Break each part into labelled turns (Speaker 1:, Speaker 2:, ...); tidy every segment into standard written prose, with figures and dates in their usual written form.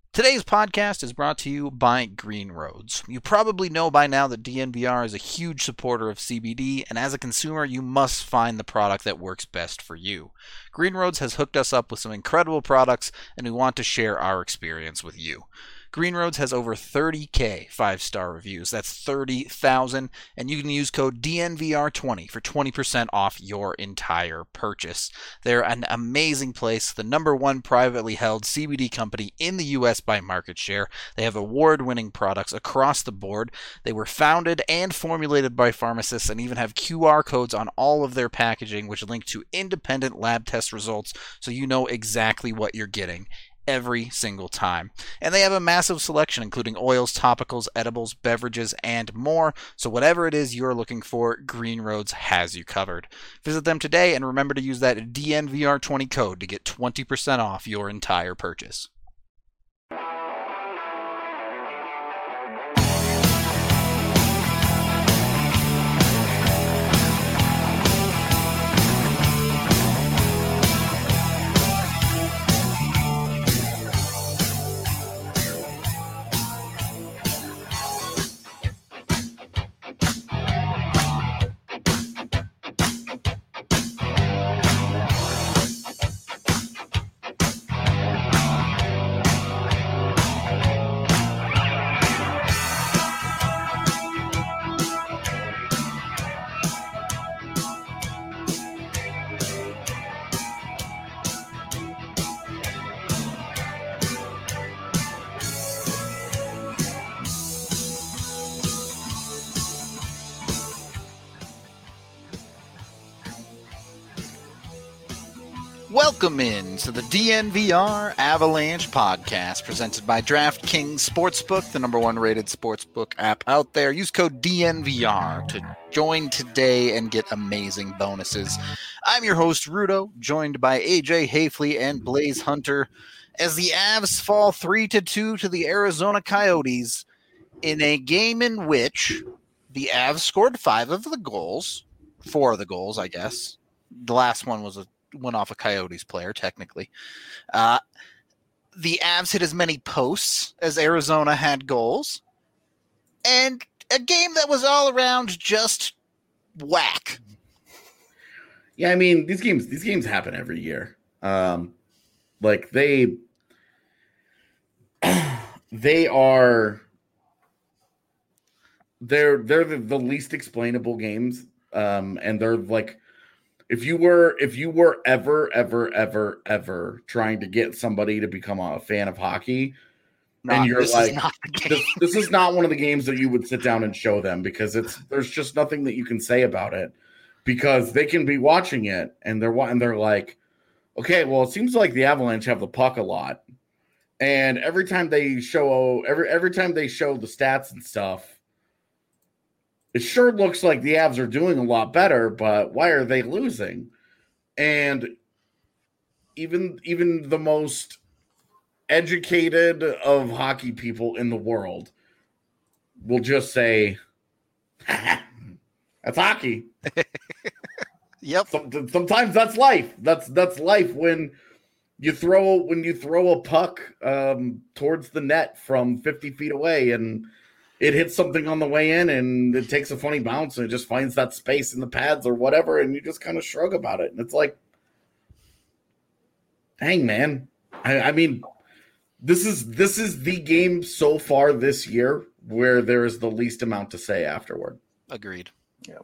Speaker 1: Today's podcast is brought to you by Green Roads. You probably know by now that DNVR is a huge supporter of CBD, and as a consumer, you must find the product that works best for you. Green Roads has hooked us up with some incredible products, and we want to share our experience with you. Green Roads has over 30K 5-star reviews. That's 30,000. And you can use code DNVR20 for 20% off your entire purchase. They're an amazing place, the #1 privately held CBD company in the U.S. by market share. They have award-winning products across the board. They were founded and formulated by pharmacists and even have QR codes on all of their packaging, which link to independent lab test results so you know exactly what you're getting every single time. And they have a massive selection, including oils, topicals, edibles, beverages, and more. So whatever it is you're looking for, Green Roads has you covered. Visit them today and remember to use that DNVR20 code to get 20% off your entire purchase. Welcome in to the DNVR Avalanche podcast presented by DraftKings Sportsbook, the #1 rated sportsbook app out there. Use code DNVR to join today and get amazing bonuses. I'm your host, Rudo, joined by AJ Hafley and Blaze Hunter as the Avs fall 3-2 to the Arizona Coyotes in a game in which the Avs scored 4 of the goals, I guess. The last one was went off a Coyotes player, technically. The Avs hit as many posts as Arizona had goals. And a game that was all around just whack.
Speaker 2: Yeah, I mean, these games happen every year. They are the least explainable games. And they're like, If you were ever trying to get somebody to become a fan of hockey, and you're like, this is not one of the games that you would sit down and show them because there's just nothing that you can say about it because they can be watching it and they're like, okay, well, it seems like the Avalanche have the puck a lot, and every time they show the stats and stuff, it sure looks like the Avs are doing a lot better, but why are they losing? And even the most educated of hockey people in the world will just say, that's hockey.
Speaker 1: Yep.
Speaker 2: Sometimes that's life. That's life when you throw a puck towards the net from 50 feet away and it hits something on the way in and it takes a funny bounce and it just finds that space in the pads or whatever. And you just kind of shrug about it. And it's like, dang, man. I mean, this is the game so far this year where there is the least amount to say afterward.
Speaker 1: Agreed.
Speaker 2: Yeah.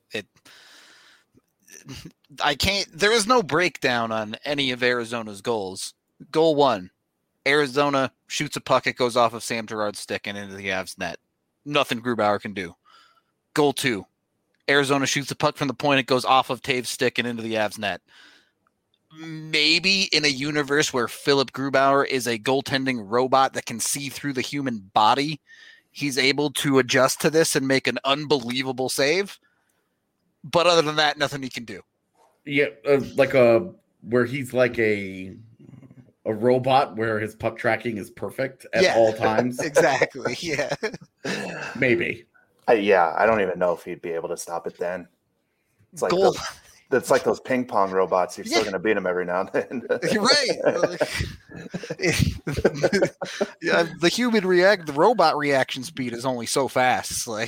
Speaker 1: There is no breakdown on any of Arizona's goals. Goal 1, Arizona shoots a puck. It goes off of Sam Girard's stick and into the Avs net. Nothing Grubauer can do. Goal 2, Arizona shoots a puck from the point. It goes off of Taves' stick and into the Avs net. Maybe in a universe where Philip Grubauer is a goaltending robot that can see through the human body, he's able to adjust to this and make an unbelievable save. But other than that, nothing he can do.
Speaker 2: Yeah, where he's like a robot where his puck tracking is perfect at all times.
Speaker 1: Exactly. Yeah.
Speaker 2: Maybe.
Speaker 3: I don't even know if he'd be able to stop it then. It's like It's like those ping pong robots. You're still going to beat them every now and then.
Speaker 1: You're right. The robot reaction speed is only so fast. Like,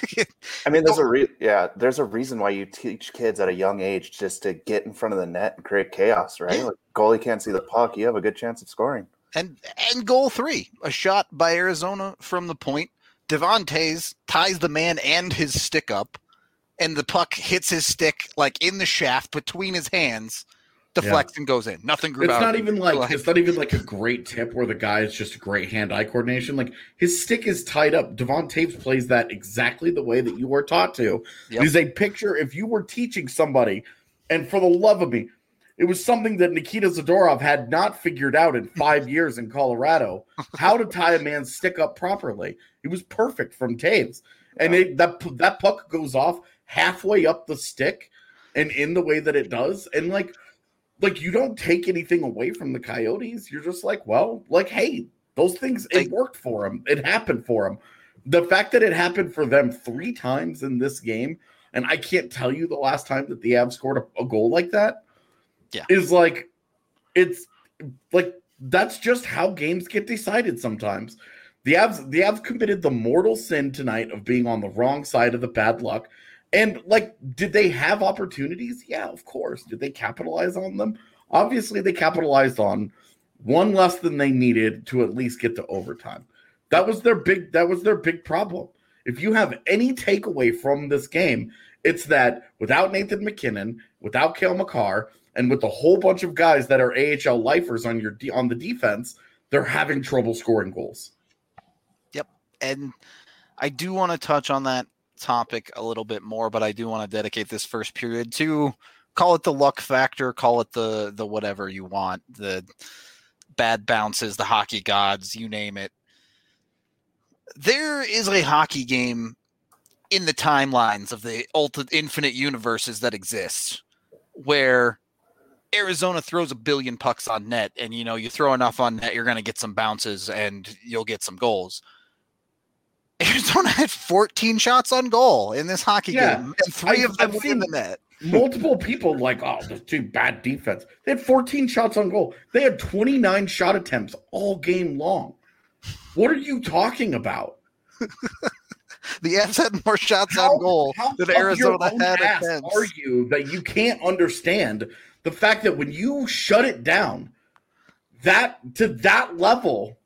Speaker 3: I mean, there's a reason why you teach kids at a young age just to get in front of the net and create chaos, right?
Speaker 1: Yeah.
Speaker 3: Like, goalie can't see the puck, you have a good chance of scoring.
Speaker 1: And goal 3, a shot by Arizona from the point. Devon Toews ties the man and his stick up, and the puck hits his stick like in the shaft between his hands, deflects and goes in. Nothing grew out.
Speaker 2: It's not even like a great tip where the guy is just great hand-eye coordination. Like, his stick is tied up. Devon Toews plays that exactly the way that you were taught to. Yep. It is a picture. If you were teaching somebody, and for the love of me, it was something that Nikita Zadorov had not figured out in 5 years in Colorado, how to tie a man's stick up properly. It was perfect from Toews. And that puck goes off halfway up the stick and in the way that it does. And like you don't take anything away from the Coyotes. You're just like, well, like, hey, those things, it worked for them. It happened for them. The fact that it happened for them 3 times in this game, and I can't tell you the last time that the Avs scored a goal like that, is like, it's like, that's just how games get decided sometimes. The Avs committed the mortal sin tonight of being on the wrong side of the bad luck. And, like, did they have opportunities? Yeah, of course. Did they capitalize on them? Obviously, they capitalized on one less than they needed to at least get to overtime. That was their big problem. If you have any takeaway from this game, it's that without Nathan MacKinnon, without Cale Makar, and with a whole bunch of guys that are AHL lifers on the defense, they're having trouble scoring goals.
Speaker 1: Yep. And I do want to touch on that topic a little bit more, but I do want to dedicate this first period to, call it the luck factor, call it the whatever you want, the bad bounces, the hockey gods, you name it. There is a hockey game in the timelines of the infinite universes that exist where Arizona throws a billion pucks on net, and you throw enough on net, you're going to get some bounces and you'll get some goals. Arizona had 14 shots on goal in this hockey game, and 3 of them were in the net.
Speaker 2: Multiple people like, oh, that's too bad defense. They had 14 shots on goal. They had 29 shot attempts all game long. What are you talking about?
Speaker 1: The Avs had more shots on goal than Arizona had attempts.
Speaker 2: How argue that you can't understand the fact that when you shut it down to that level,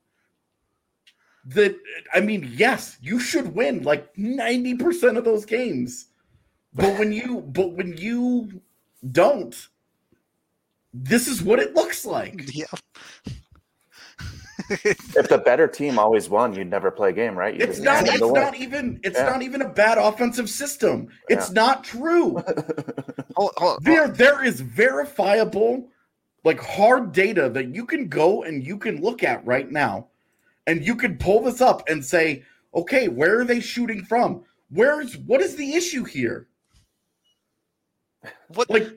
Speaker 2: that, I mean, yes, you should win like 90% of those games. But when you don't, this is what it looks like.
Speaker 1: Yeah.
Speaker 3: If the better team always won, you'd never play a game, right?
Speaker 2: It's not even a bad offensive system. It's not true. There is verifiable, like, hard data that you can go and you can look at right now, and you can pull this up and say, okay, where are they shooting from? What is the issue here?
Speaker 1: What?
Speaker 2: Like,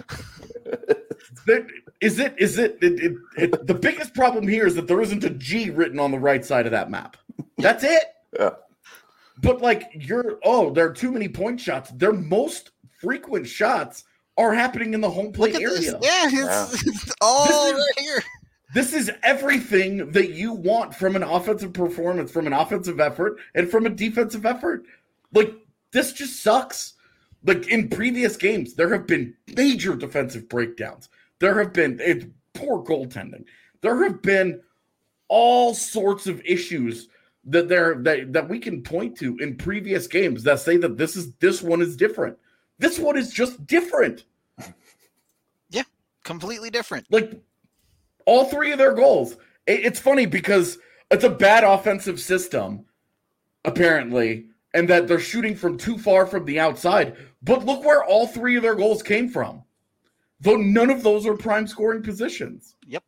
Speaker 2: the biggest problem here is that there isn't a G written on the right side of that map. That's it.
Speaker 3: Yeah.
Speaker 2: But like, there are too many point shots. Their most frequent shots are happening in the home plate area.
Speaker 1: This. Yeah, it's all right here.
Speaker 2: This is everything that you want from an offensive performance, from an offensive effort, and from a defensive effort. Like, this just sucks. Like, in previous games, there have been major defensive breakdowns. There have been poor goaltending. There have been all sorts of issues that we can point to in previous games that say that this one is different. This one is just different.
Speaker 1: Yeah, completely different.
Speaker 2: Like, all 3 of their goals. It's funny because it's a bad offensive system, apparently, and that they're shooting from too far from the outside. But look where all 3 of their goals came from. Though none of those are prime scoring positions.
Speaker 1: Yep.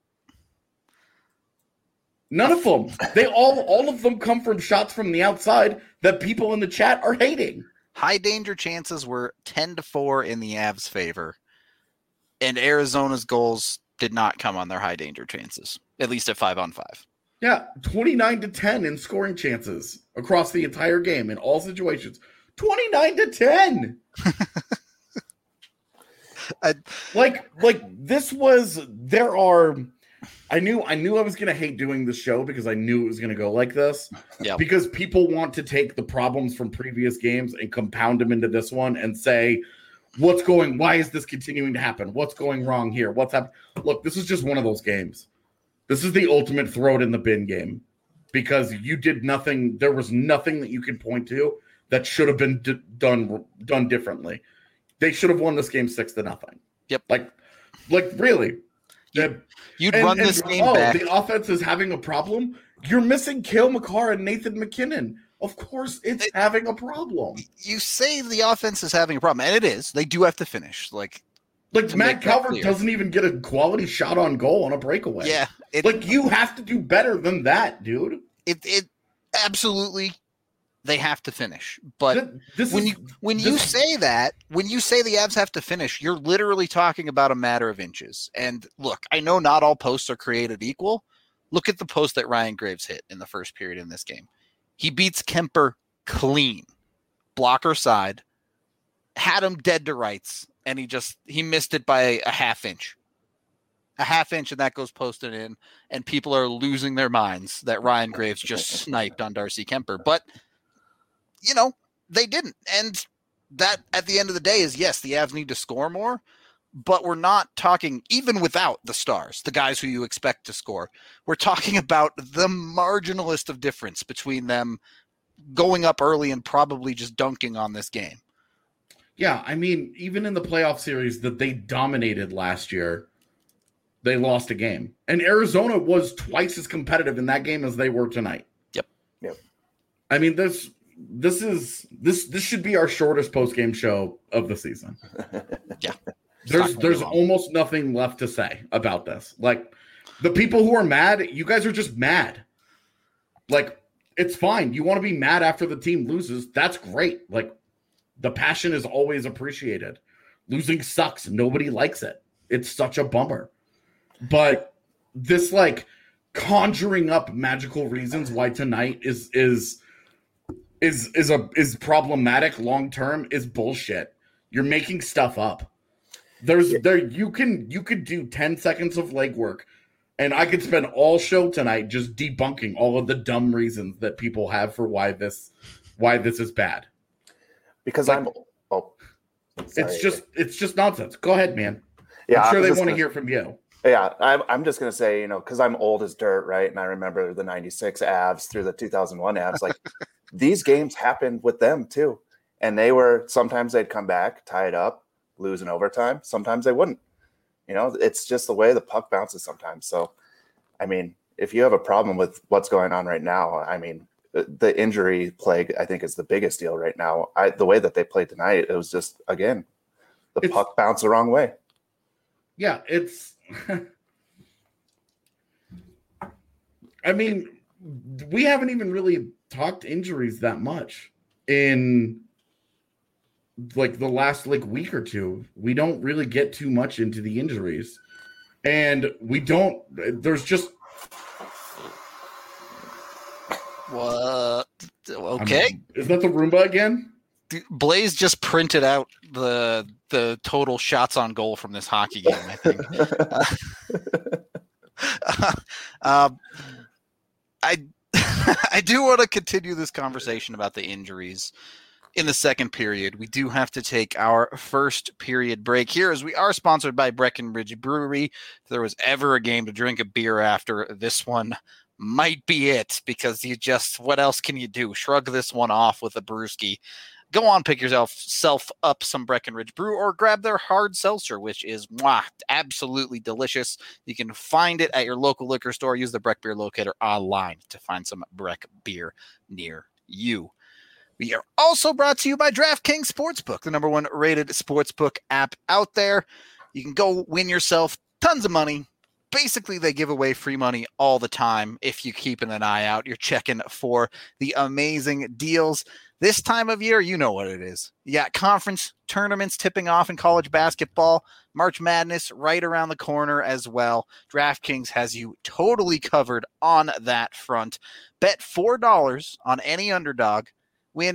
Speaker 2: None of them. They all of them come from shots from the outside that people in the chat are hating.
Speaker 1: High danger chances were 10-4 in the Avs' favor. And Arizona's goals did not come on their high danger chances, at least at 5-on-5.
Speaker 2: Yeah, 29-10 in scoring chances across the entire game in all situations. 29-10. Like this was. There are. I knew I was gonna hate doing the show because I knew it was gonna go like this.
Speaker 1: Yeah.
Speaker 2: Because people want to take the problems from previous games and compound them into this one and say, why is this continuing to happen? What's going wrong here? What's happening? Look, this is just one of those games. This is the ultimate throw it in the bin game because you did nothing. There was nothing that you could point to that should have been done differently. They should have won this game 6-0.
Speaker 1: Yep.
Speaker 2: Like really.
Speaker 1: You'd run this game back.
Speaker 2: The offense is having a problem. You're missing Cale Makar and Nathan McKinnon. Of course, it's having a problem.
Speaker 1: You say the offense is having a problem, and it is. They do have to finish. Like
Speaker 2: Matt Calvert doesn't even get a quality shot on goal on a breakaway.
Speaker 1: Yeah.
Speaker 2: You have to do better than that, dude.
Speaker 1: It absolutely. They have to finish, but when you say the Avs have to finish, you're literally talking about a matter of inches. And look, I know not all posts are created equal. Look at the post that Ryan Graves hit in the first period in this game. He beats Kemper clean, blocker side, had him dead to rights, and he missed it by a half inch. A half inch, and that goes posted in, and people are losing their minds that Ryan Graves just sniped on Darcy Kemper, but. They didn't. And that, at the end of the day, is yes, the Avs need to score more, but we're not talking, even without the stars, the guys who you expect to score, we're talking about the marginalist of difference between them going up early and probably just dunking on this game.
Speaker 2: Yeah, I mean, even in the playoff series that they dominated last year, they lost a game. And Arizona was twice as competitive in that game as they were tonight.
Speaker 1: Yep.
Speaker 2: I mean, this should be our shortest post-game show of the season.
Speaker 1: Yeah.
Speaker 2: There's almost nothing left to say about this. Like, the people who are mad, you guys are just mad. Like, it's fine. You want to be mad after the team loses. That's great. Like, the passion is always appreciated. Losing sucks. Nobody likes it. It's such a bummer. But this, like, conjuring up magical reasons why tonight is problematic long term is bullshit. You're making stuff up. You could do 10 seconds of legwork, and I could spend all show tonight just debunking all of the dumb reasons that people have for why this is bad.
Speaker 3: Because
Speaker 2: it's just nonsense. Go ahead, man.
Speaker 3: Yeah,
Speaker 2: I'm sure they want to hear from you.
Speaker 3: Yeah, I'm just gonna say, because I'm old as dirt, right? And I remember the '96 Avs through the 2001 Avs. Like, these games happened with them too, and sometimes they'd come back, tie it up, lose in overtime. Sometimes they wouldn't. It's just the way the puck bounces sometimes. So, I mean, if you have a problem with what's going on right now, I mean, the injury plague, I think, is the biggest deal right now. The way that they played tonight, it was just, again, the puck bounced the wrong way.
Speaker 2: Yeah, it's. I mean, we haven't even really talked injuries that much in like the last week or two. We don't really get too much into the injuries, and there's just
Speaker 1: what? Okay,
Speaker 2: is that the Roomba again?
Speaker 1: Blaze just printed out the total shots on goal from this hockey game, I think. I do want to continue this conversation about the injuries in the second period. We do have to take our first period break here, as we are sponsored by Breckenridge Brewery. If there was ever a game to drink a beer after, this one might be it, because what else can you do? Shrug this one off with a brewski. Go on, pick yourself up some Breckenridge Brew, or grab their hard seltzer, which is absolutely delicious. You can find it at your local liquor store. Use the Breck Beer Locator online to find some Breck beer near you. We are also brought to you by DraftKings Sportsbook, the #1 rated sportsbook app out there. You can go win yourself tons of money. Basically, they give away free money all the time. If you keep an eye out, you're checking for the amazing deals. This time of year, you know what it is. You got conference tournaments tipping off in college basketball, March Madness right around the corner as well. DraftKings has you totally covered on that front. Bet $4 on any underdog. win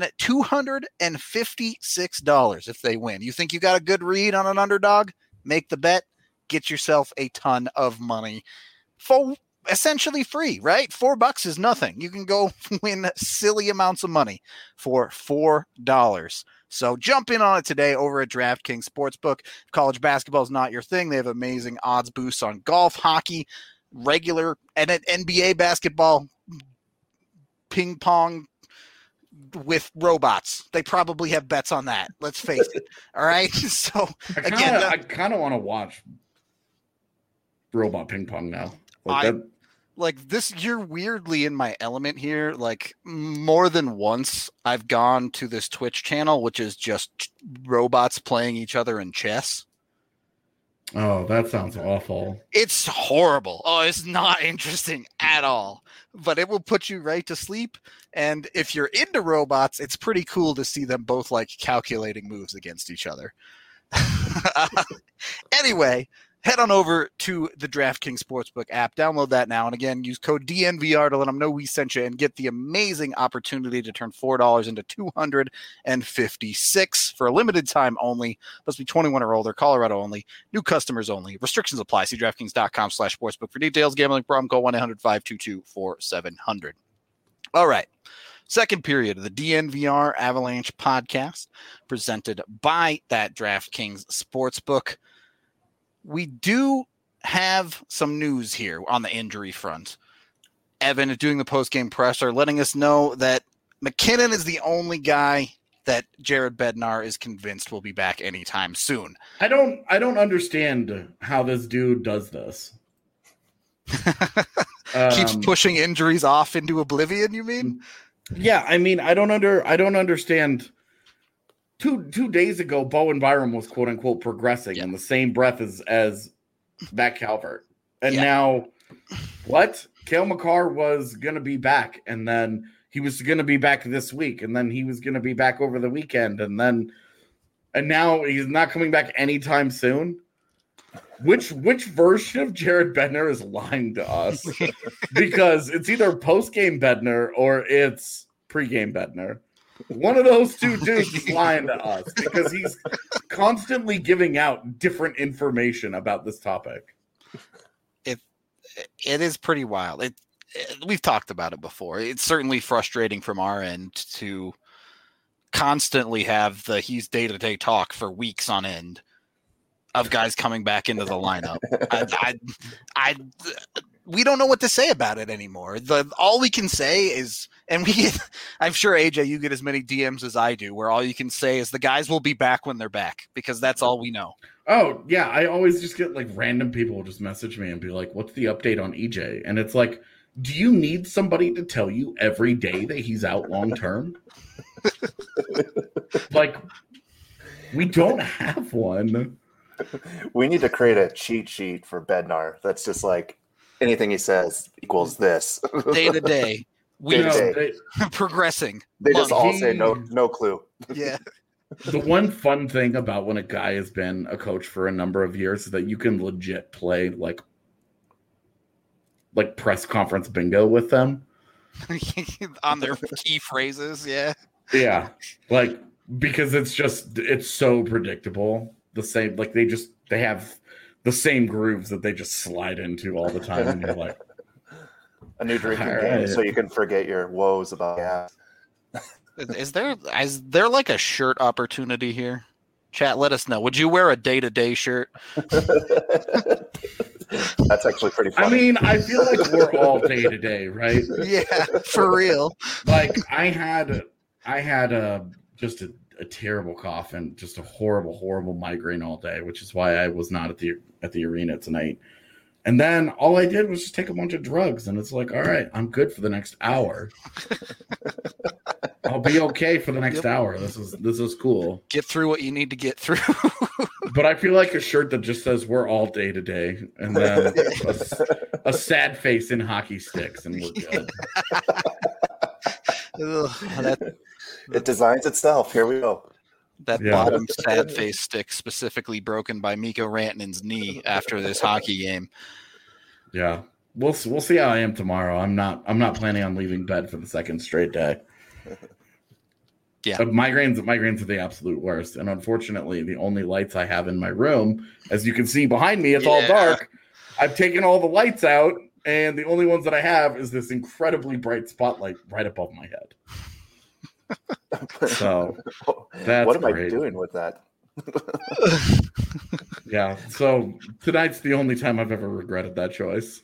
Speaker 1: $256 if they win. You think you got a good read on an underdog? Make the bet. Get yourself a ton of money for essentially free, right? $4 is nothing. You can go win silly amounts of money for $4. So jump in on it today over at DraftKings Sportsbook. If college basketball is not your thing, they have amazing odds boosts on golf, hockey, regular and NBA basketball, ping pong with robots. They probably have bets on that. Let's face it. All right. So
Speaker 2: I kind of want to watch robot ping pong now.
Speaker 1: Like this, you're weirdly in my element here. Like more than once, I've gone to this Twitch channel, which is just robots playing each other in chess.
Speaker 2: Oh, that sounds awful.
Speaker 1: It's horrible. Oh, it's not interesting at all, but it will put you right to sleep. And if you're into robots, it's pretty cool to see them both like calculating moves against each other. Anyway, head on over to the DraftKings Sportsbook app. Download that now. And again, use code DNVR to let them know we sent you and get the amazing opportunity to turn $4 into $256 for a limited time only. Must be 21 or older, Colorado only, new customers only. Restrictions apply. See DraftKings.com/sportsbook for details. Gambling problem, call 1-800-522-4700. All right. Second period of the DNVR Avalanche podcast presented by that DraftKings Sportsbook. We do have some news here on the injury front. Evan is doing the post-game presser, letting us know that McKinnon is the only guy that Jared Bednar is convinced will be back anytime soon.
Speaker 2: I don't understand how this dude does this.
Speaker 1: Keeps pushing injuries off into oblivion, you mean?
Speaker 2: Yeah, I mean, I don't understand. Two days ago, Bowen Byram was quote unquote progressing in the same breath as Matt Calvert. And now what? Cale Makar was gonna be back, and then he was gonna be back this week, and then he was gonna be back over the weekend, and now he's not coming back anytime soon. Which version of Jared Bednar is lying to us? Because it's either post-game Bednar or it's pre-game Bednar. One of those two dudes is lying to us because he's constantly giving out different information about this topic.
Speaker 1: It is pretty wild. We've talked about it before. It's certainly frustrating from our end to constantly have he's day-to-day talk for weeks on end of guys coming back into the lineup. We don't know what to say about it anymore. All we can say is, and I'm sure AJ, you get as many DMs as I do, where all you can say is the guys will be back when they're back, because that's all we know.
Speaker 2: Oh yeah, I always just get like random people just message me and be like, "What's the update on EJ?" And it's like, do you need somebody to tell you every day that he's out long term? Like, we don't have one.
Speaker 3: We need to create a cheat sheet for Bednar that's just like anything he says equals this.
Speaker 1: Day to day. Progressing.
Speaker 3: They just all say no clue.
Speaker 1: Yeah.
Speaker 2: The one fun thing about when a guy has been a coach for a number of years is that you can legit play like press conference bingo with them.
Speaker 1: On their key phrases, yeah.
Speaker 2: Yeah. Like, because it's so predictable. The same, like they have the same grooves that they just slide into all the time, and you're like,
Speaker 3: a new drinking game, so you can forget your woes about gas.
Speaker 1: Is there like a shirt opportunity here? Chat, let us know. Would you wear a day-to-day shirt?
Speaker 3: That's actually pretty funny.
Speaker 2: I mean, I feel like we're all day-to-day, right?
Speaker 1: Yeah, for real.
Speaker 2: Like I had just a terrible cough and just a horrible migraine all day, which is why I was not at the arena tonight. And then all I did was just take a bunch of drugs, and it's like, all right, I'm good for the next hour. I'll be okay for the next hour. This is cool.
Speaker 1: Get through what you need to get through.
Speaker 2: But I feel like a shirt that just says "We're all day to day," and then a sad face in hockey sticks, and we're good.
Speaker 3: It designs itself. Here we go.
Speaker 1: That bottom sad face stick specifically broken by Mikko Rantanen's knee after this hockey game.
Speaker 2: Yeah, we'll see how I am tomorrow. I'm not planning on leaving bed for the second straight day.
Speaker 1: Yeah.
Speaker 2: Migraines are the absolute worst. And unfortunately, the only lights I have in my room, as you can see behind me, it's all dark. I've taken all the lights out, and the only ones that I have is this incredibly bright spotlight right above my head. So that's
Speaker 3: what am
Speaker 2: great.
Speaker 3: I doing with that?
Speaker 2: Yeah. So tonight's the only time I've ever regretted that choice.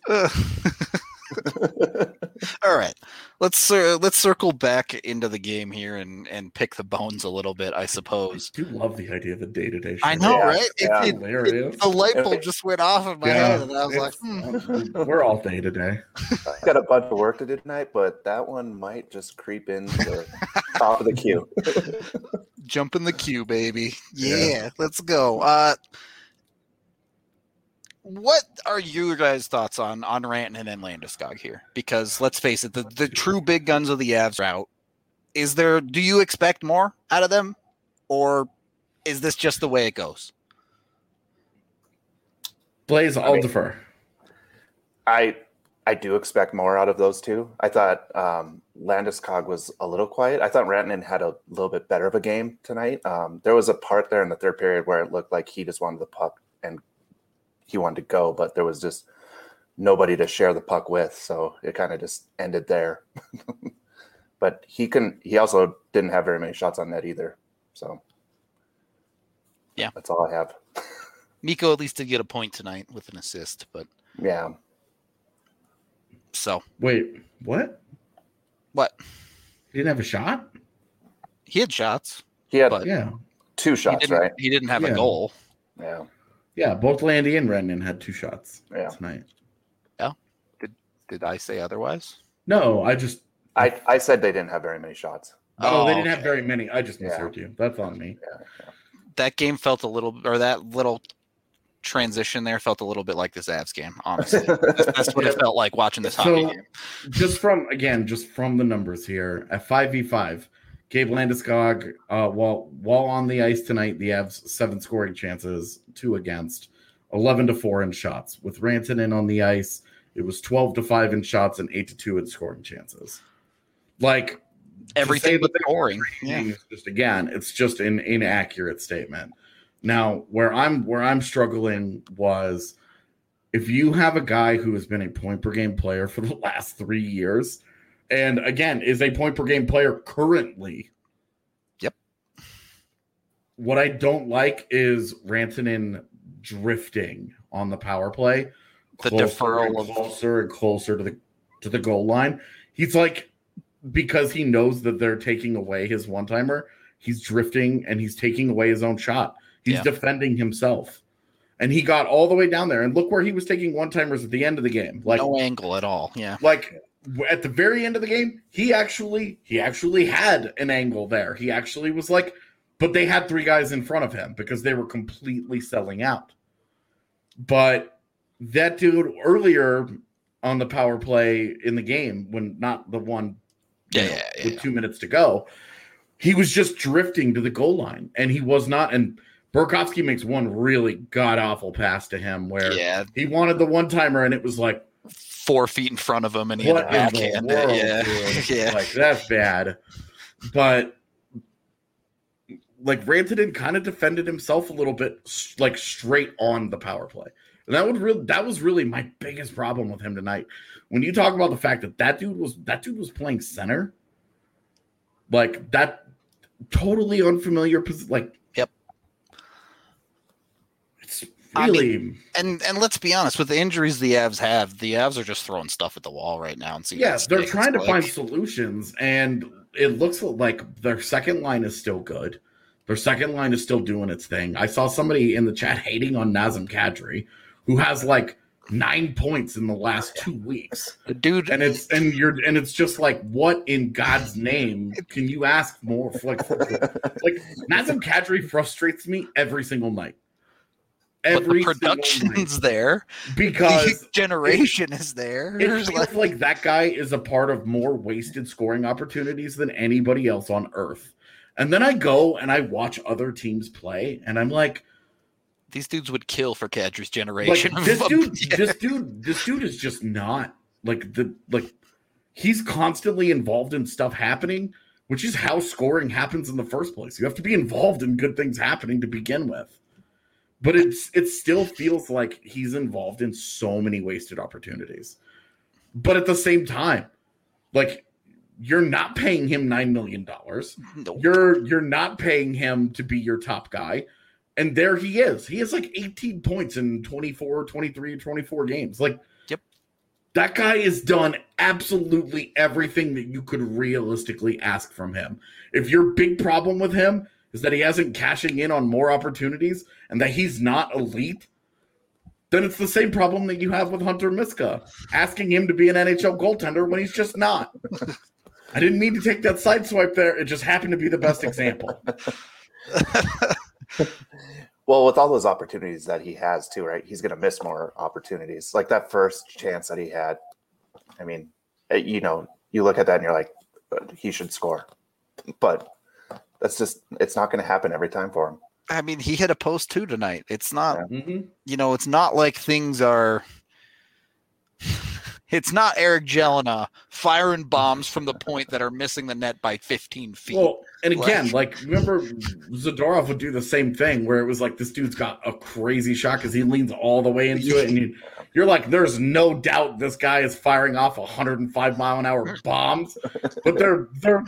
Speaker 1: All right, let's circle back into the game here and pick the bones a little bit, I suppose.
Speaker 2: I do love the idea of a day-to-day show.
Speaker 1: I know, right?
Speaker 2: Hilarious.
Speaker 1: The light bulb just went off in my head, and I was like,
Speaker 2: we're all day-to-day.
Speaker 3: I got a bunch of work to do tonight, but that one might just creep into the top of the queue.
Speaker 1: Jump in the queue, baby. Yeah. Let's go. What are you guys' thoughts on Rantanen and Landeskog here? Because let's face it, the true big guns of the Avs are out. Do you expect more out of them, or is this just the way it goes?
Speaker 2: Blaze, I'll defer.
Speaker 3: I do expect more out of those two. I thought Landeskog was a little quiet. I thought Rantanen had a little bit better of a game tonight. There was a part there in the third period where it looked like he just wanted the puck and he wanted to go, but there was just nobody to share the puck with, so it kind of just ended there. But he also didn't have very many shots on net either. So
Speaker 1: yeah,
Speaker 3: that's all I have.
Speaker 1: Mikko at least did get a point tonight with an assist, but
Speaker 3: yeah.
Speaker 2: So wait, what? He didn't have a shot?
Speaker 1: He had shots.
Speaker 3: He had
Speaker 2: 2
Speaker 3: shots, right?
Speaker 1: He didn't have a goal.
Speaker 3: Yeah.
Speaker 2: Yeah, both Landy and Rantanen had 2 shots tonight.
Speaker 1: Yeah. Did I say otherwise?
Speaker 2: No,
Speaker 3: I said they didn't have very many shots.
Speaker 2: Oh, they didn't have very many. I just misheard you. That's on me.
Speaker 3: Yeah.
Speaker 1: That game felt a little, or that little transition there felt a little bit like this Avs game, honestly. That's what it felt like watching this hockey game. Just
Speaker 2: from the numbers here, at 5v5, Gabe Landeskog, while on the ice tonight, the Avs 7 scoring chances, 2 against, 11-4 in shots. With Rantanen on the ice, it was 12-5 in shots and 8-2 in scoring chances. Like
Speaker 1: everything but scoring.
Speaker 2: It's just an inaccurate statement. Now, where I'm struggling was if you have a guy who has been a point per game player for the last 3 years, and again, is a point per game player currently.
Speaker 1: Yep.
Speaker 2: What I don't like is Rantanen drifting on the power play.
Speaker 1: The deferral of
Speaker 2: closer and closer to the goal line. He's like, because he knows that they're taking away his one-timer, he's drifting and he's taking away his own shot. He's defending himself. And he got all the way down there. And look where he was taking one-timers at the end of the game. Like
Speaker 1: no angle at all. Yeah.
Speaker 2: Like at the very end of the game, he actually had an angle there. He actually was like, but they had 3 guys in front of him because they were completely selling out. But that dude earlier on the power play in the game, when not the one with 2 minutes to go, he was just drifting to the goal line. And he was not. And Burakovsky makes one really god-awful pass to him where he wanted the one-timer and it was like
Speaker 1: 4 feet in front of him and he had a backhand.
Speaker 2: Yeah. Like, that's bad. But like Rantanen kind of defended himself a little bit, like straight on the power play. And that was really my biggest problem with him tonight. When you talk about the fact that dude was playing center, like that totally unfamiliar position, like it's really.
Speaker 1: And let's be honest, with the injuries the Avs are just throwing stuff at the wall right now and seeing.
Speaker 2: Yes, they're trying to find solutions, and it looks like their second line is still good. Their second line is still doing its thing. I saw somebody in the chat hating on Nazem Kadri, who has like 9 points in the last 2 weeks.
Speaker 1: The dude,
Speaker 2: and it's just like, what in God's name can you ask more? Like Nazem Kadri frustrates me every single night.
Speaker 1: But the production's there
Speaker 2: because
Speaker 1: the generation is there.
Speaker 2: It feels like that guy is a part of more wasted scoring opportunities than anybody else on earth. And then I go and I watch other teams play, and I'm like,
Speaker 1: these dudes would kill for Kadri's generation.
Speaker 2: Like, this dude is just not like he's constantly involved in stuff happening, which is how scoring happens in the first place. You have to be involved in good things happening to begin with. But it still feels like he's involved in so many wasted opportunities. But at the same time, like, you're not paying him $9 million.
Speaker 1: Nope.
Speaker 2: You're not paying him to be your top guy. And there he is. He has like 18 points in 24 games. Like,
Speaker 1: yep.
Speaker 2: That guy has done absolutely everything that you could realistically ask from him. If your big problem with him is that he hasn't cashing in on more opportunities and that he's not elite, then it's the same problem that you have with Hunter Miska, asking him to be an NHL goaltender when he's just not. I didn't mean to take that sideswipe there. It just happened to be the best example.
Speaker 3: Well, with all those opportunities that he has too, right? He's going to miss more opportunities. Like that first chance that he had. I mean, you know, you look at that and you're like, he should score. But that's just, it's not going to happen every time for him.
Speaker 1: I mean, he hit a post too tonight. It's not,
Speaker 2: Mm-hmm.
Speaker 1: you know, it's not like things are. It's not Eric Jelena firing bombs from the point that are missing the net by 15 feet.
Speaker 2: Well, and again, like remember Zadorov would do the same thing where it was like this dude's got a crazy shot because he leans all the way into it, and you're like, there's no doubt this guy is firing off 105-mile-an-hour bombs, but they're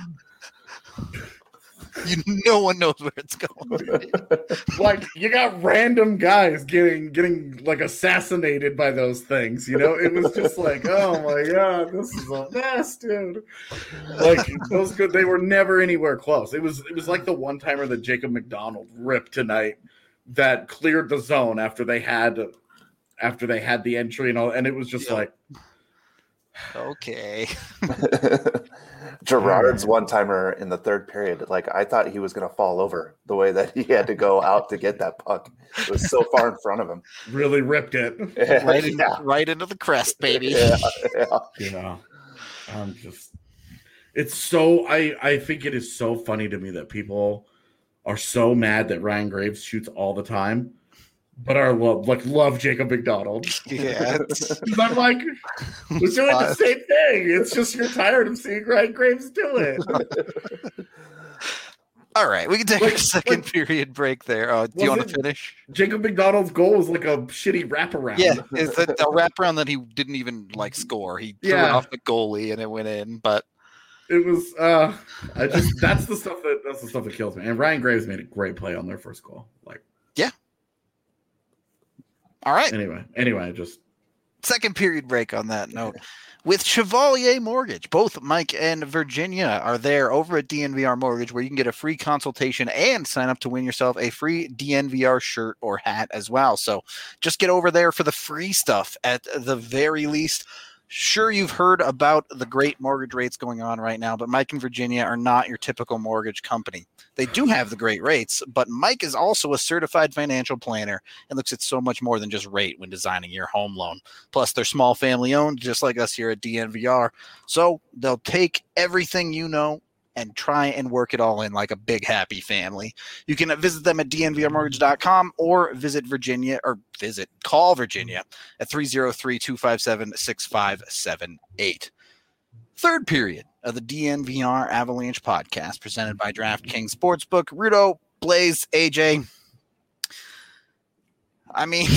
Speaker 1: no one knows where it's going.
Speaker 2: like you got random guys getting like assassinated by those things, you know. It was just like, oh my god, this is a mess, dude. Like those good, they were never anywhere close. It was like the one timer that Jacob McDonald ripped tonight that cleared the zone after they had the entry and all, and it was just like,
Speaker 1: okay.
Speaker 3: Gerard's one-timer in the third period, like I thought he was going to fall over the way that he had to go out to get that puck. It was so far in front of him.
Speaker 2: really ripped it.
Speaker 1: Right into the crest, baby.
Speaker 3: Yeah.
Speaker 2: You know, it's so, I think it is so funny to me that people are so mad that Ryan Graves shoots all the time, but love Jacob McDonald.
Speaker 1: Yeah.
Speaker 2: I'm like, we're doing the same thing. It's just you're tired of seeing Ryan Graves do it.
Speaker 1: All right, we can take a second period break there. Do you want to finish?
Speaker 2: Jacob McDonald's goal was like a shitty wraparound.
Speaker 1: Yeah, it's a wraparound that he didn't even like score. He threw it off the goalie and it went in, but
Speaker 2: it was that's the stuff that kills me. And Ryan Graves made a great play on their first goal. Like,
Speaker 1: yeah. All right.
Speaker 2: Anyway, just
Speaker 1: second period break on that note. With Chevalier Mortgage, both Mike and Virginia are there over at DNVR Mortgage, where you can get a free consultation and sign up to win yourself a free DNVR shirt or hat as well. So just get over there for the free stuff at the very least. Sure, you've heard about the great mortgage rates going on right now, but Mike and Virginia are not your typical mortgage company. They do have the great rates, but Mike is also a certified financial planner and looks at so much more than just rate when designing your home loan. Plus, they're small family owned, just like us here at DNVR. So they'll take everything you know and try and work it all in like a big happy family. You can visit them at dnvrmortgage.com or call Virginia at 303-257-6578. Third period of the DNVR Avalanche podcast presented by DraftKings Sportsbook. Rudo, Blaze, AJ. I mean,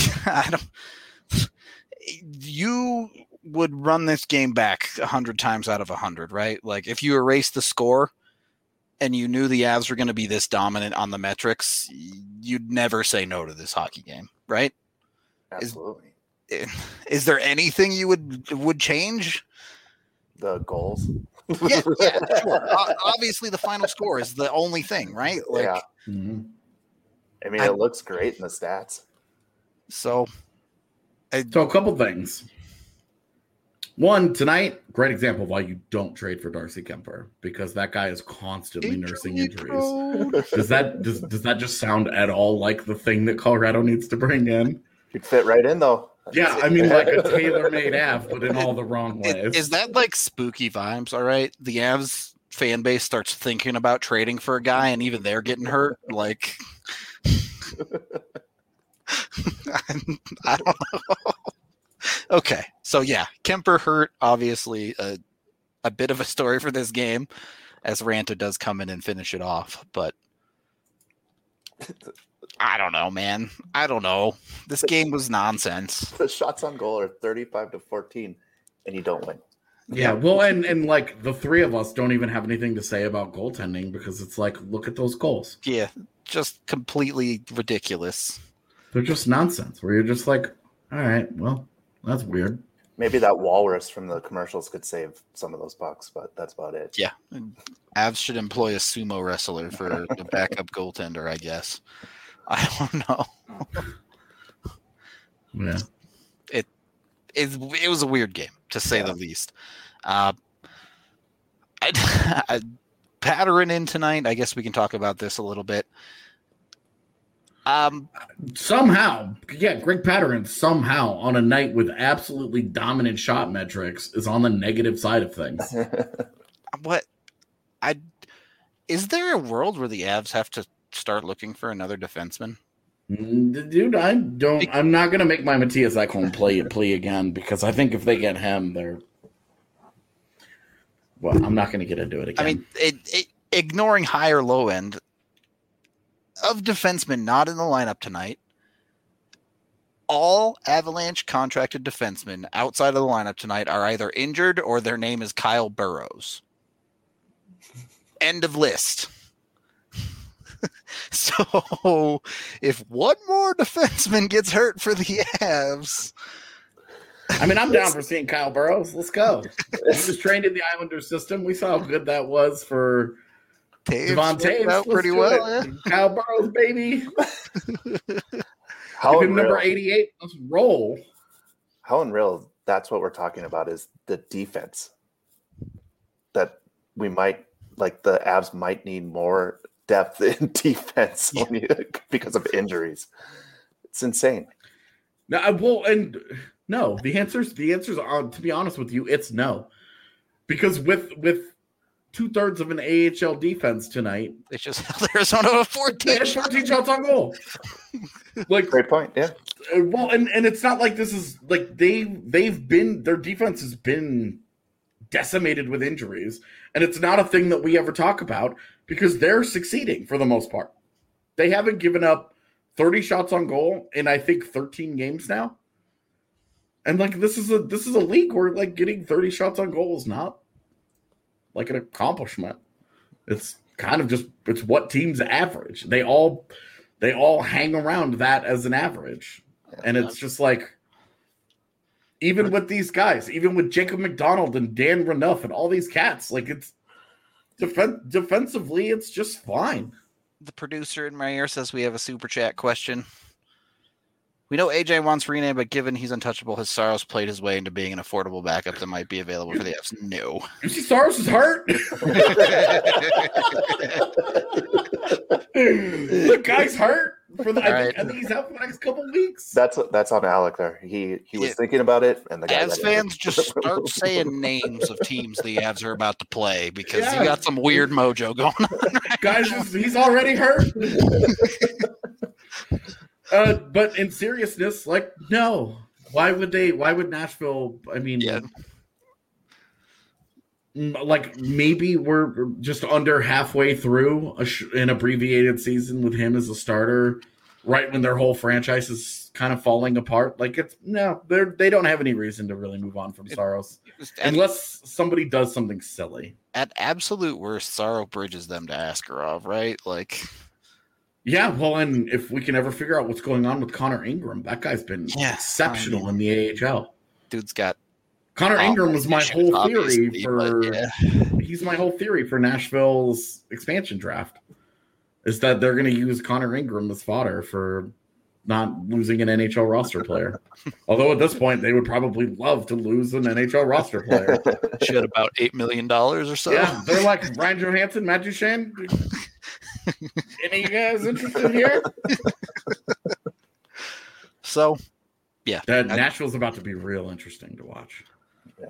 Speaker 1: you would run this game back 100 times out of 100, right? Like if you erase the score and you knew the Avs were going to be this dominant on the metrics, you'd never say no to this hockey game, right?
Speaker 3: Absolutely.
Speaker 1: Is there anything you would change?
Speaker 3: The goals.
Speaker 1: Yeah, sure. Obviously, the final score is the only thing, right? Like,
Speaker 3: yeah.
Speaker 2: Mm-hmm.
Speaker 3: I mean, it looks great in the stats.
Speaker 1: So
Speaker 2: a couple things. One, tonight, great example of why you don't trade for Darcy Kemper, because that guy is constantly nursing injuries. Does that just sound at all like the thing that Colorado needs to bring in?
Speaker 3: You'd fit right in, though.
Speaker 2: Yeah, I mean, like a tailor-made Av, but in all the wrong ways.
Speaker 1: Is that like spooky vibes? All right, the Avs fan base starts thinking about trading for a guy, and even they're getting hurt. Like, I don't know. Okay, so yeah, Kemper hurt. Obviously, a bit of a story for this game. as Ranta does come in and finish it off. But I don't know, man. I don't know. This game was nonsense.
Speaker 3: The shots on goal are 35-14, and you don't win.
Speaker 2: Yeah, well, and like the three of us don't even have anything to say about goaltending because it's like, look at those goals.
Speaker 1: Yeah, just completely ridiculous.
Speaker 2: They're just nonsense where you're just like, all right, well, that's weird.
Speaker 3: Maybe that walrus from the commercials could save some of those pucks, but that's about it.
Speaker 1: Yeah. Avs should employ a sumo wrestler for the backup goaltender, I guess. I don't know.
Speaker 2: Yeah.
Speaker 1: It was a weird game, to say the least. Pattern in tonight. I guess we can talk about this a little bit.
Speaker 2: Somehow, Greg Pattern somehow on a night with absolutely dominant shot metrics is on the negative side of things.
Speaker 1: Is there a world where the Avs have to start looking for another defenseman?
Speaker 2: Dude, I'm not going to make my Matthias Ekholm play again because I think if they get him, I'm not going to get into it again.
Speaker 1: I mean, ignoring high or low end of defensemen not in the lineup tonight, all Avalanche contracted defensemen outside of the lineup tonight are either injured or their name is Kyle Burroughs. End of list. So if one more defenseman gets hurt for the Avs,
Speaker 2: I mean, I'm down for seeing Kyle Burroughs. Let's go. He was trained in the Islanders system. We saw how good that was for Devon Taves.
Speaker 1: Out pretty well. Yeah.
Speaker 2: Kyle Burroughs, baby.
Speaker 3: How
Speaker 2: Give him number 88. Let's roll.
Speaker 3: How unreal that's what we're talking about is the defense. That we might, like the Avs might need more depth in defense because of injuries. It's insane.
Speaker 2: No, no. The answers are, to be honest with you, it's no. Because with 2/3 of an AHL defense tonight,
Speaker 1: they just held Arizona to 14
Speaker 2: shots on goal. Like,
Speaker 3: great point. Yeah.
Speaker 2: Well, and it's not like this is like their defense has been decimated with injuries, and it's not a thing that we ever talk about because they're succeeding for the most part. They haven't given up 30 shots on goal in I think 13 games now. And like this is a league where like getting 30 shots on goal is not like an accomplishment. It's kind of it's what teams average. They all hang around that as an average. And it's just like, even with these guys, even with Jacob McDonald and Dan Renouf and all these cats, like it's defensively, it's just fine.
Speaker 1: The producer in my ear says we have a super chat question. We know AJ wants Rene, but given he's untouchable, has Saros played his way into being an affordable backup that might be available for the Avs? No.
Speaker 2: You see Saros is hurt? The guy's hurt. I think he's out for the next couple of weeks.
Speaker 3: That's on Alec there. He was thinking about it, and the guy.
Speaker 1: Avs fans just start saying names of teams the Avs are about to play because you got some weird mojo going on. Right,
Speaker 2: guys, he's already hurt. But in seriousness, like, no. Why would Nashville? I mean, like maybe we're just under halfway through an abbreviated season with him as a starter, right when their whole franchise is kind of falling apart. Like they don't have any reason to really move on from Saros unless somebody does something silly.
Speaker 1: At absolute worst, Saros bridges them to Askarov, right? Like.
Speaker 2: Yeah, well, and if we can ever figure out what's going on with Connor Ingram, that guy's been exceptional in the AHL.
Speaker 1: Dude's got
Speaker 2: Connor Ingram was my whole theory he's my whole theory for Nashville's expansion draft. Is that they're going to use Connor Ingram as fodder for not losing an NHL roster player. Although at this point they would probably love to lose an NHL roster player.
Speaker 1: Should about $8 million or so.
Speaker 2: Yeah, they're like Ryan Johansson, Matt Duchene. Any of you guys interested here?
Speaker 1: So, yeah.
Speaker 2: Nashville's about to be real interesting to watch.
Speaker 3: Yeah.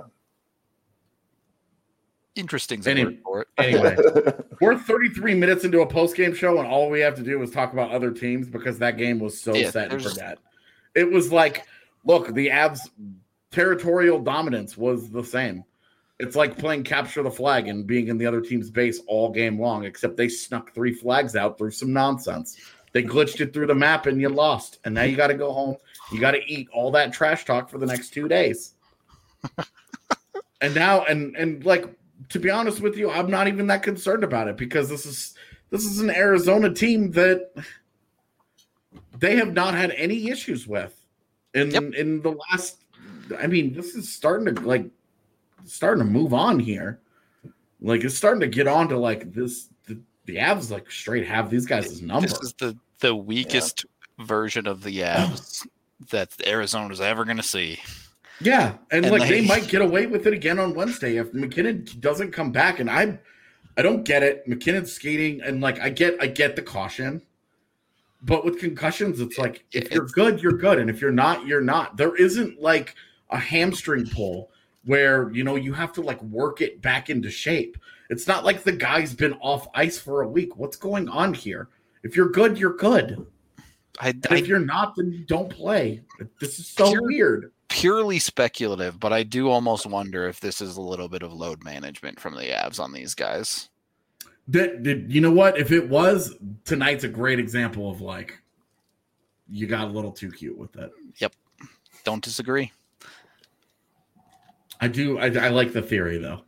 Speaker 1: Interesting.
Speaker 2: Anyway, we're 33 minutes into a post-game show, and all we have to do is talk about other teams because that game was so set and forget. It was like, look, the Avs' territorial dominance was the same. It's like playing capture the flag and being in the other team's base all game long, except they snuck 3 flags out through some nonsense. They glitched it through the map and you lost. And now you got to go home. You got to eat all that trash talk for the next 2 days. And now, and like, to be honest with you, I'm not even that concerned about it because this is an Arizona team that they have not had any issues with in the last. I mean, this is starting to move on here. Like, it's starting to get on to like this. The Avs like straight have these guys' number.
Speaker 1: This is the weakest version of the Avs that Arizona's ever going to see.
Speaker 2: Yeah, and like they might get away with it again on Wednesday if McKinnon doesn't come back. And I don't get it. McKinnon's skating, and like I get the caution, but with concussions, it's like if you're good, you're good, and if you're not, you're not. There isn't like a hamstring pull where you have to like work it back into shape. It's not like the guy's been off ice for a week. What's going on here? If you're good, you're good. If you're not, then you don't play. This is so weird.
Speaker 1: Purely speculative, but I do almost wonder if this is a little bit of load management from the Avs on these guys.
Speaker 2: You know what? If it was, tonight's a great example of like you got a little too cute with it.
Speaker 1: Yep. Don't disagree.
Speaker 2: I do. I like the theory though.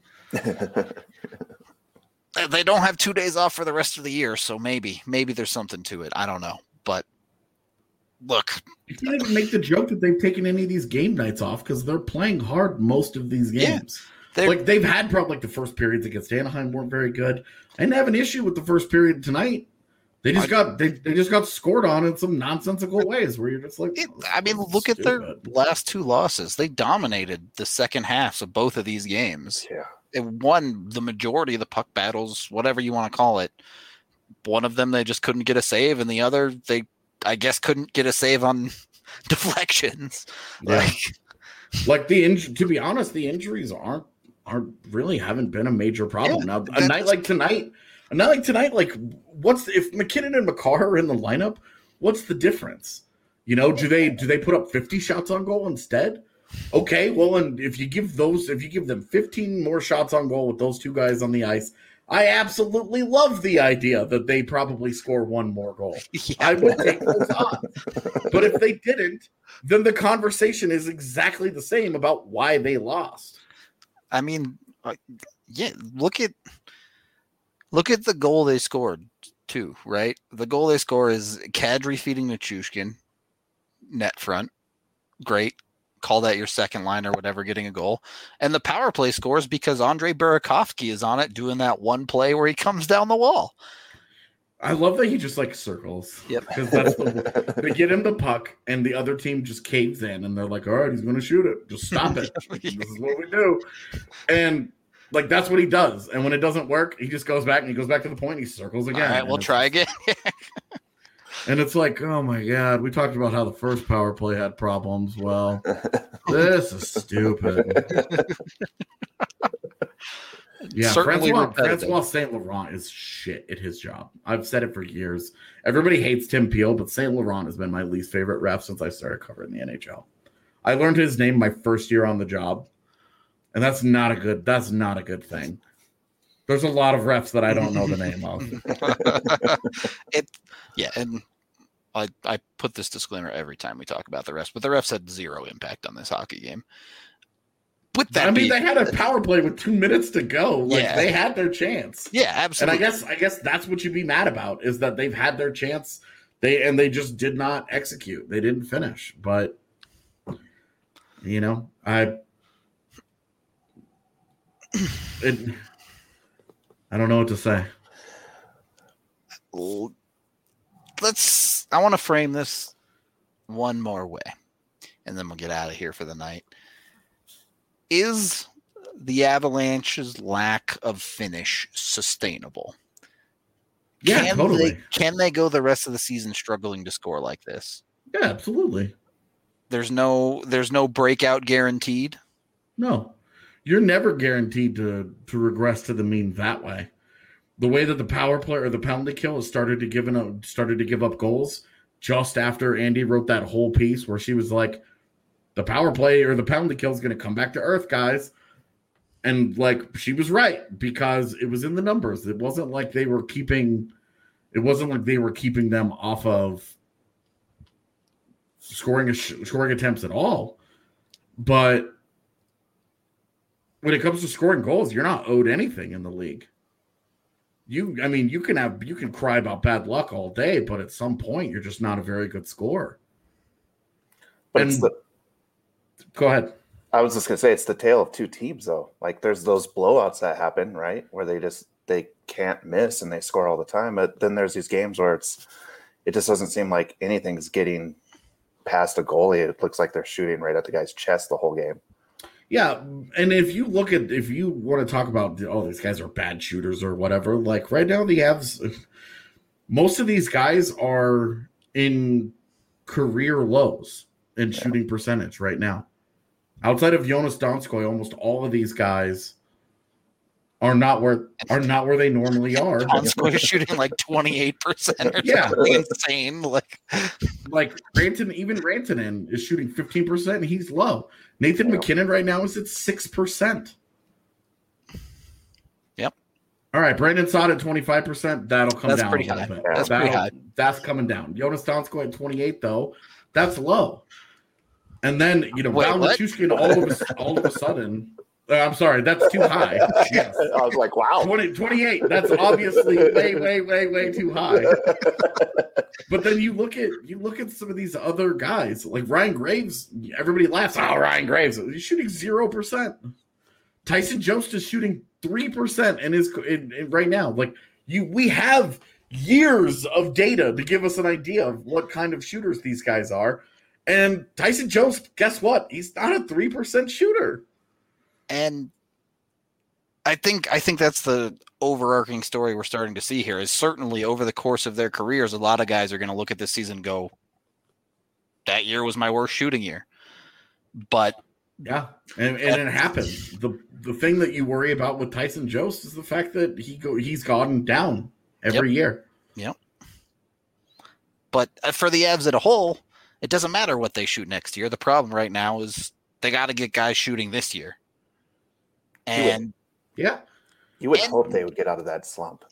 Speaker 1: They don't have 2 days off for the rest of the year, so maybe there's something to it. I don't know, but look,
Speaker 2: you can't even make the joke that they've taken any of these game nights off because they're playing hard most of these games. Yeah, they've had probably like the first periods against Anaheim weren't very good. I didn't have an issue with the first period tonight. They just got scored on in some nonsensical ways where you're just like,
Speaker 1: look at their last 2 losses. They dominated the second halves of both of these games.
Speaker 3: Yeah,
Speaker 1: it won the majority of the puck battles, whatever you want to call it. One of them they just couldn't get a save, and the other they, I guess, couldn't get a save on deflections.
Speaker 2: Yeah. To be honest, the injuries aren't really haven't been a major problem. Now, a night like tonight, like if McKinnon and Makar are in the lineup, what's the difference? Do they put up 50 shots on goal instead? Okay, well, and if you give them 15 more shots on goal with those 2 guys on the ice, I absolutely love the idea that they probably score 1 more goal. Yeah. I would take those odds. But if they didn't, then the conversation is exactly the same about why they lost.
Speaker 1: I mean, look at the goal they scored too, right? The goal they score is Kadri feeding Nichushkin, net front. Great. Call that your second line or whatever, getting a goal. And the power play scores because Andrei Burakovsky is on it doing that one play where he comes down the wall.
Speaker 2: I love that he just like circles.
Speaker 1: Yep.
Speaker 2: Because they get him the puck and the other team just caves in and they're like, all right, he's going to shoot it. Just stop it. This is what we do. And like, that's what he does. And when it doesn't work, he just goes back and he goes back to the point. And he circles again.
Speaker 1: All right, we'll try again.
Speaker 2: And it's like, oh my God, we talked about how the first power play had problems. Well, this is stupid. Yeah, Francois St. Laurent is shit at his job. I've said it for years. Everybody hates Tim Peel, but St. Laurent has been my least favorite ref since I started covering the NHL. I learned his name my first year on the job, and that's not a good thing. There's a lot of refs that I don't know the name of.
Speaker 1: And I put this disclaimer every time we talk about the refs, but the refs had 0 impact on this hockey game.
Speaker 2: They had a power play with 2 minutes to go. They had their chance.
Speaker 1: Yeah, absolutely.
Speaker 2: And I guess that's what you'd be mad about is that they've had their chance. They just did not execute. They didn't finish. But I don't know what to say.
Speaker 1: I want to frame this one more way, and then we'll get out of here for the night. Is the Avalanche's lack of finish sustainable?
Speaker 2: Yeah, totally.
Speaker 1: Can they go the rest of the season struggling to score like this?
Speaker 2: Yeah, absolutely.
Speaker 1: There's no breakout guaranteed?
Speaker 2: No. You're never guaranteed to regress to the mean that way. The way that the power play or the penalty kill has started to give up goals just after Andy wrote that whole piece where she was like, the power play or the penalty kill is going to come back to earth, guys. And like she was right because it was in the numbers. It wasn't like they were keeping them off of scoring attempts at all. But when it comes to scoring goals, you're not owed anything in the league. You can cry about bad luck all day, but at some point you're just not a very good scorer. But go ahead.
Speaker 3: I was just gonna say it's the tale of two teams, though. Like there's those blowouts that happen, right, where they can't miss and they score all the time. But then there's these games where it just doesn't seem like anything's getting past a goalie. It looks like they're shooting right at the guy's chest the whole game.
Speaker 2: Yeah, and if you want to talk about these guys are bad shooters or whatever, like right now the Avs, most of these guys are in career lows in shooting percentage right now. Outside of Jonas Donskoy, almost all of these guys are not where they normally are.
Speaker 1: Donskoy is shooting like 28% or something insane.
Speaker 2: Like Rantanen is shooting 15% and he's low. Nathan McKinnon right now is at 6%.
Speaker 1: Yep.
Speaker 2: All right, Brandon Saad at 25%. That'll come down
Speaker 1: pretty
Speaker 2: a
Speaker 1: high.
Speaker 2: little bit.
Speaker 1: That's pretty high.
Speaker 2: That's coming down. Jonas Donskoy at 28 though. That's low. And then Val Nichushkin all of a sudden. I'm sorry, that's too high. Yes.
Speaker 3: I was like, wow.
Speaker 2: 28. That's obviously way too high. But then you look at some of these other guys, like Ryan Graves. Everybody laughs. Oh, Ryan Graves. He's shooting 0%. Tyson Jost is shooting 3% and is right now. Like we have years of data to give us an idea of what kind of shooters these guys are. And Tyson Jost, guess what? He's not a 3% shooter.
Speaker 1: And I think that's the overarching story we're starting to see here is certainly over the course of their careers, a lot of guys are going to look at this season and go, that year was my worst shooting year. But
Speaker 2: yeah, and it happens. The thing that you worry about with Tyson Jost is the fact that he's gone down every year.
Speaker 1: Yep. But for the Avs as a whole, it doesn't matter what they shoot next year. The problem right now is they got to get guys shooting this year. And
Speaker 3: you would hope they would get out of that slump.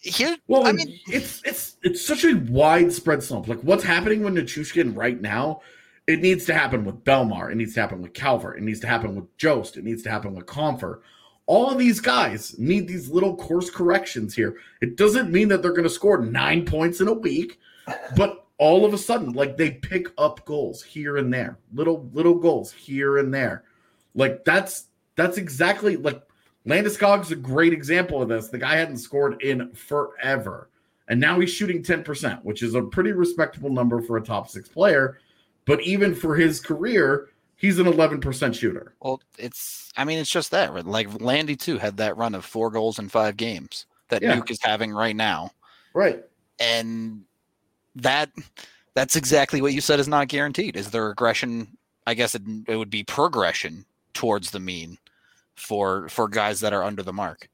Speaker 2: It's such a widespread slump. Like what's happening with Nichushkin right now, it needs to happen with Belmar. It needs to happen with Calvert. It needs to happen with Jost. It needs to happen with Compher. All of these guys need these little course corrections here. It doesn't mean that they're going to score 9 points in a week, but all of a sudden, like they pick up goals here and there, little goals here and there. Like that's exactly like Landeskog's a great example of this. The guy hadn't scored in forever, and now he's shooting 10%, which is a pretty respectable number for a top 6 player. But even for his career, he's an 11% shooter.
Speaker 1: Well, it's just that. Like Landy too had that run of 4 goals in 5 games that Nuke is having right now.
Speaker 2: Right.
Speaker 1: And that's exactly what you said is not guaranteed. Is there regression? I guess it would be progression towards the mean for guys that are under the mark.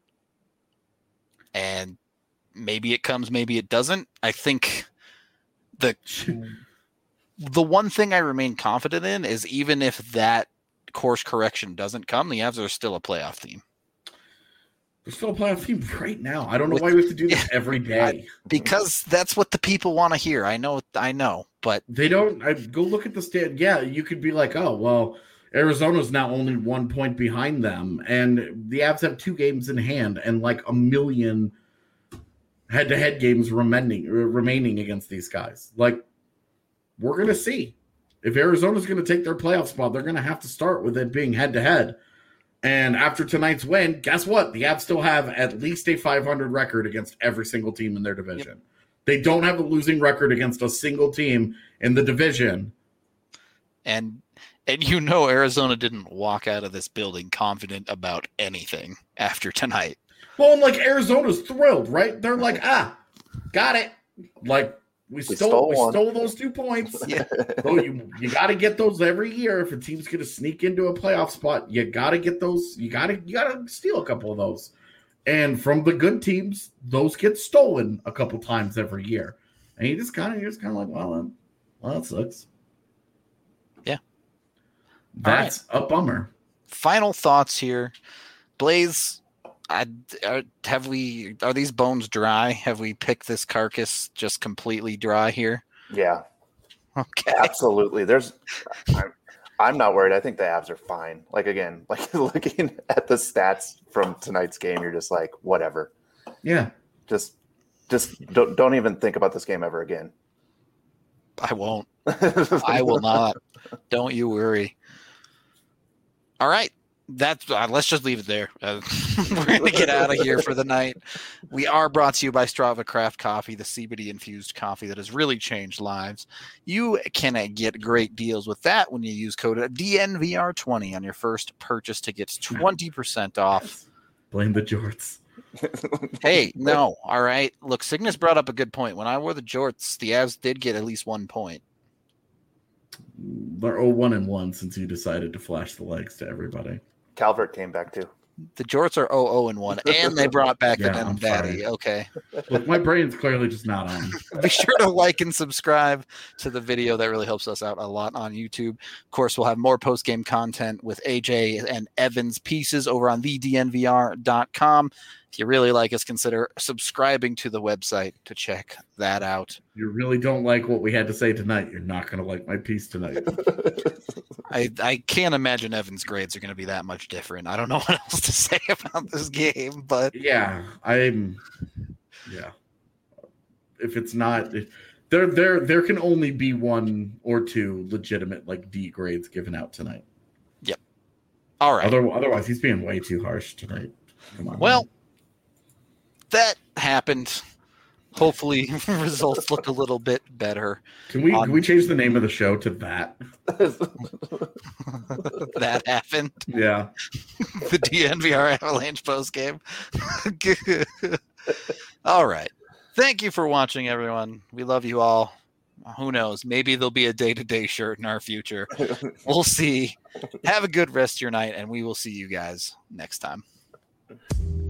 Speaker 1: And maybe it comes, maybe it doesn't. I think the one thing I remain confident in is even if that course correction doesn't come, the Avs are still a playoff team.
Speaker 2: They're still a playoff team right now. I don't know why we have to do this every day.
Speaker 1: Because that's what the people want to hear. I know, but
Speaker 2: they don't. Go look at the stand. Yeah, you could be like, oh, well, Arizona's now only 1 point behind them, and the Avs have 2 games in hand and like a million head-to-head games remaining against these guys. Like, we're going to see. If Arizona's going to take their playoff spot, they're going to have to start with it being head-to-head. And after tonight's win, guess what? The Avs still have at least a 500 record against every single team in their division. Yep. They don't have a losing record against a single team in the division.
Speaker 1: And Arizona didn't walk out of this building confident about anything after tonight.
Speaker 2: Well, and like Arizona's thrilled, right? They're like, got it. Like we stole those 2 points. Yeah. So you got to get those every year. If a team's going to sneak into a playoff spot, you got to get those. You got to steal a couple of those. And from the good teams, those get stolen a couple times every year. And you're just kind of like, well, that sucks.
Speaker 1: Yeah.
Speaker 2: That's a bummer.
Speaker 1: Final thoughts here Blaze, are these bones dry? Have we picked this carcass just completely dry here?
Speaker 3: Yeah.
Speaker 1: Okay.
Speaker 3: Absolutely. I'm not worried. I think the Avs are fine. Like, again, like looking at the stats from tonight's game, you're just like, whatever.
Speaker 2: Yeah.
Speaker 3: Just don't even think about this game ever again.
Speaker 1: I won't. I will not. Don't you worry. All right. That's let's just leave it there. We're going to get out of here for the night. We are brought to you by Strava Craft Coffee, the CBD infused coffee that has really changed lives. You can get great deals with that when you use code DNVR20 on your first purchase to get 20% off.
Speaker 2: Blame the jorts.
Speaker 1: Hey, no. All right. Look, Cygnus brought up a good point. When I wore the jorts, the Avs did get at least 1 point.
Speaker 2: They're 1-1 since you decided to flash the legs to everybody.
Speaker 3: Calvert came back too.
Speaker 1: The jorts are 0-1, and they brought back the Denim Daddy. Okay.
Speaker 2: Look, my brain's clearly just not on.
Speaker 1: Be sure to like and subscribe to the video. That really helps us out a lot on YouTube. Of course, we'll have more post-game content with AJ and Evan's pieces over on thednvr.com. If you really like us, consider subscribing to the website to check that out.
Speaker 2: You really don't like what we had to say tonight. You're not going to like my piece tonight.
Speaker 1: I can't imagine Evan's grades are going to be that much different. I don't know what else to say about this game, but
Speaker 2: yeah. If it's not, there can only be 1 or 2 legitimate like D grades given out tonight.
Speaker 1: Yep. All right.
Speaker 2: Otherwise, he's being way too harsh tonight. Come on.
Speaker 1: Well, that happened. Hopefully, results look a little bit better.
Speaker 2: Can we change the name of the show to that?
Speaker 1: That happened.
Speaker 2: Yeah.
Speaker 1: The DNVR Avalanche post game. All right. Thank you for watching, everyone. We love you all. Who knows? Maybe there'll be a day-to-day shirt in our future. We'll see. Have a good rest of your night, and we will see you guys next time.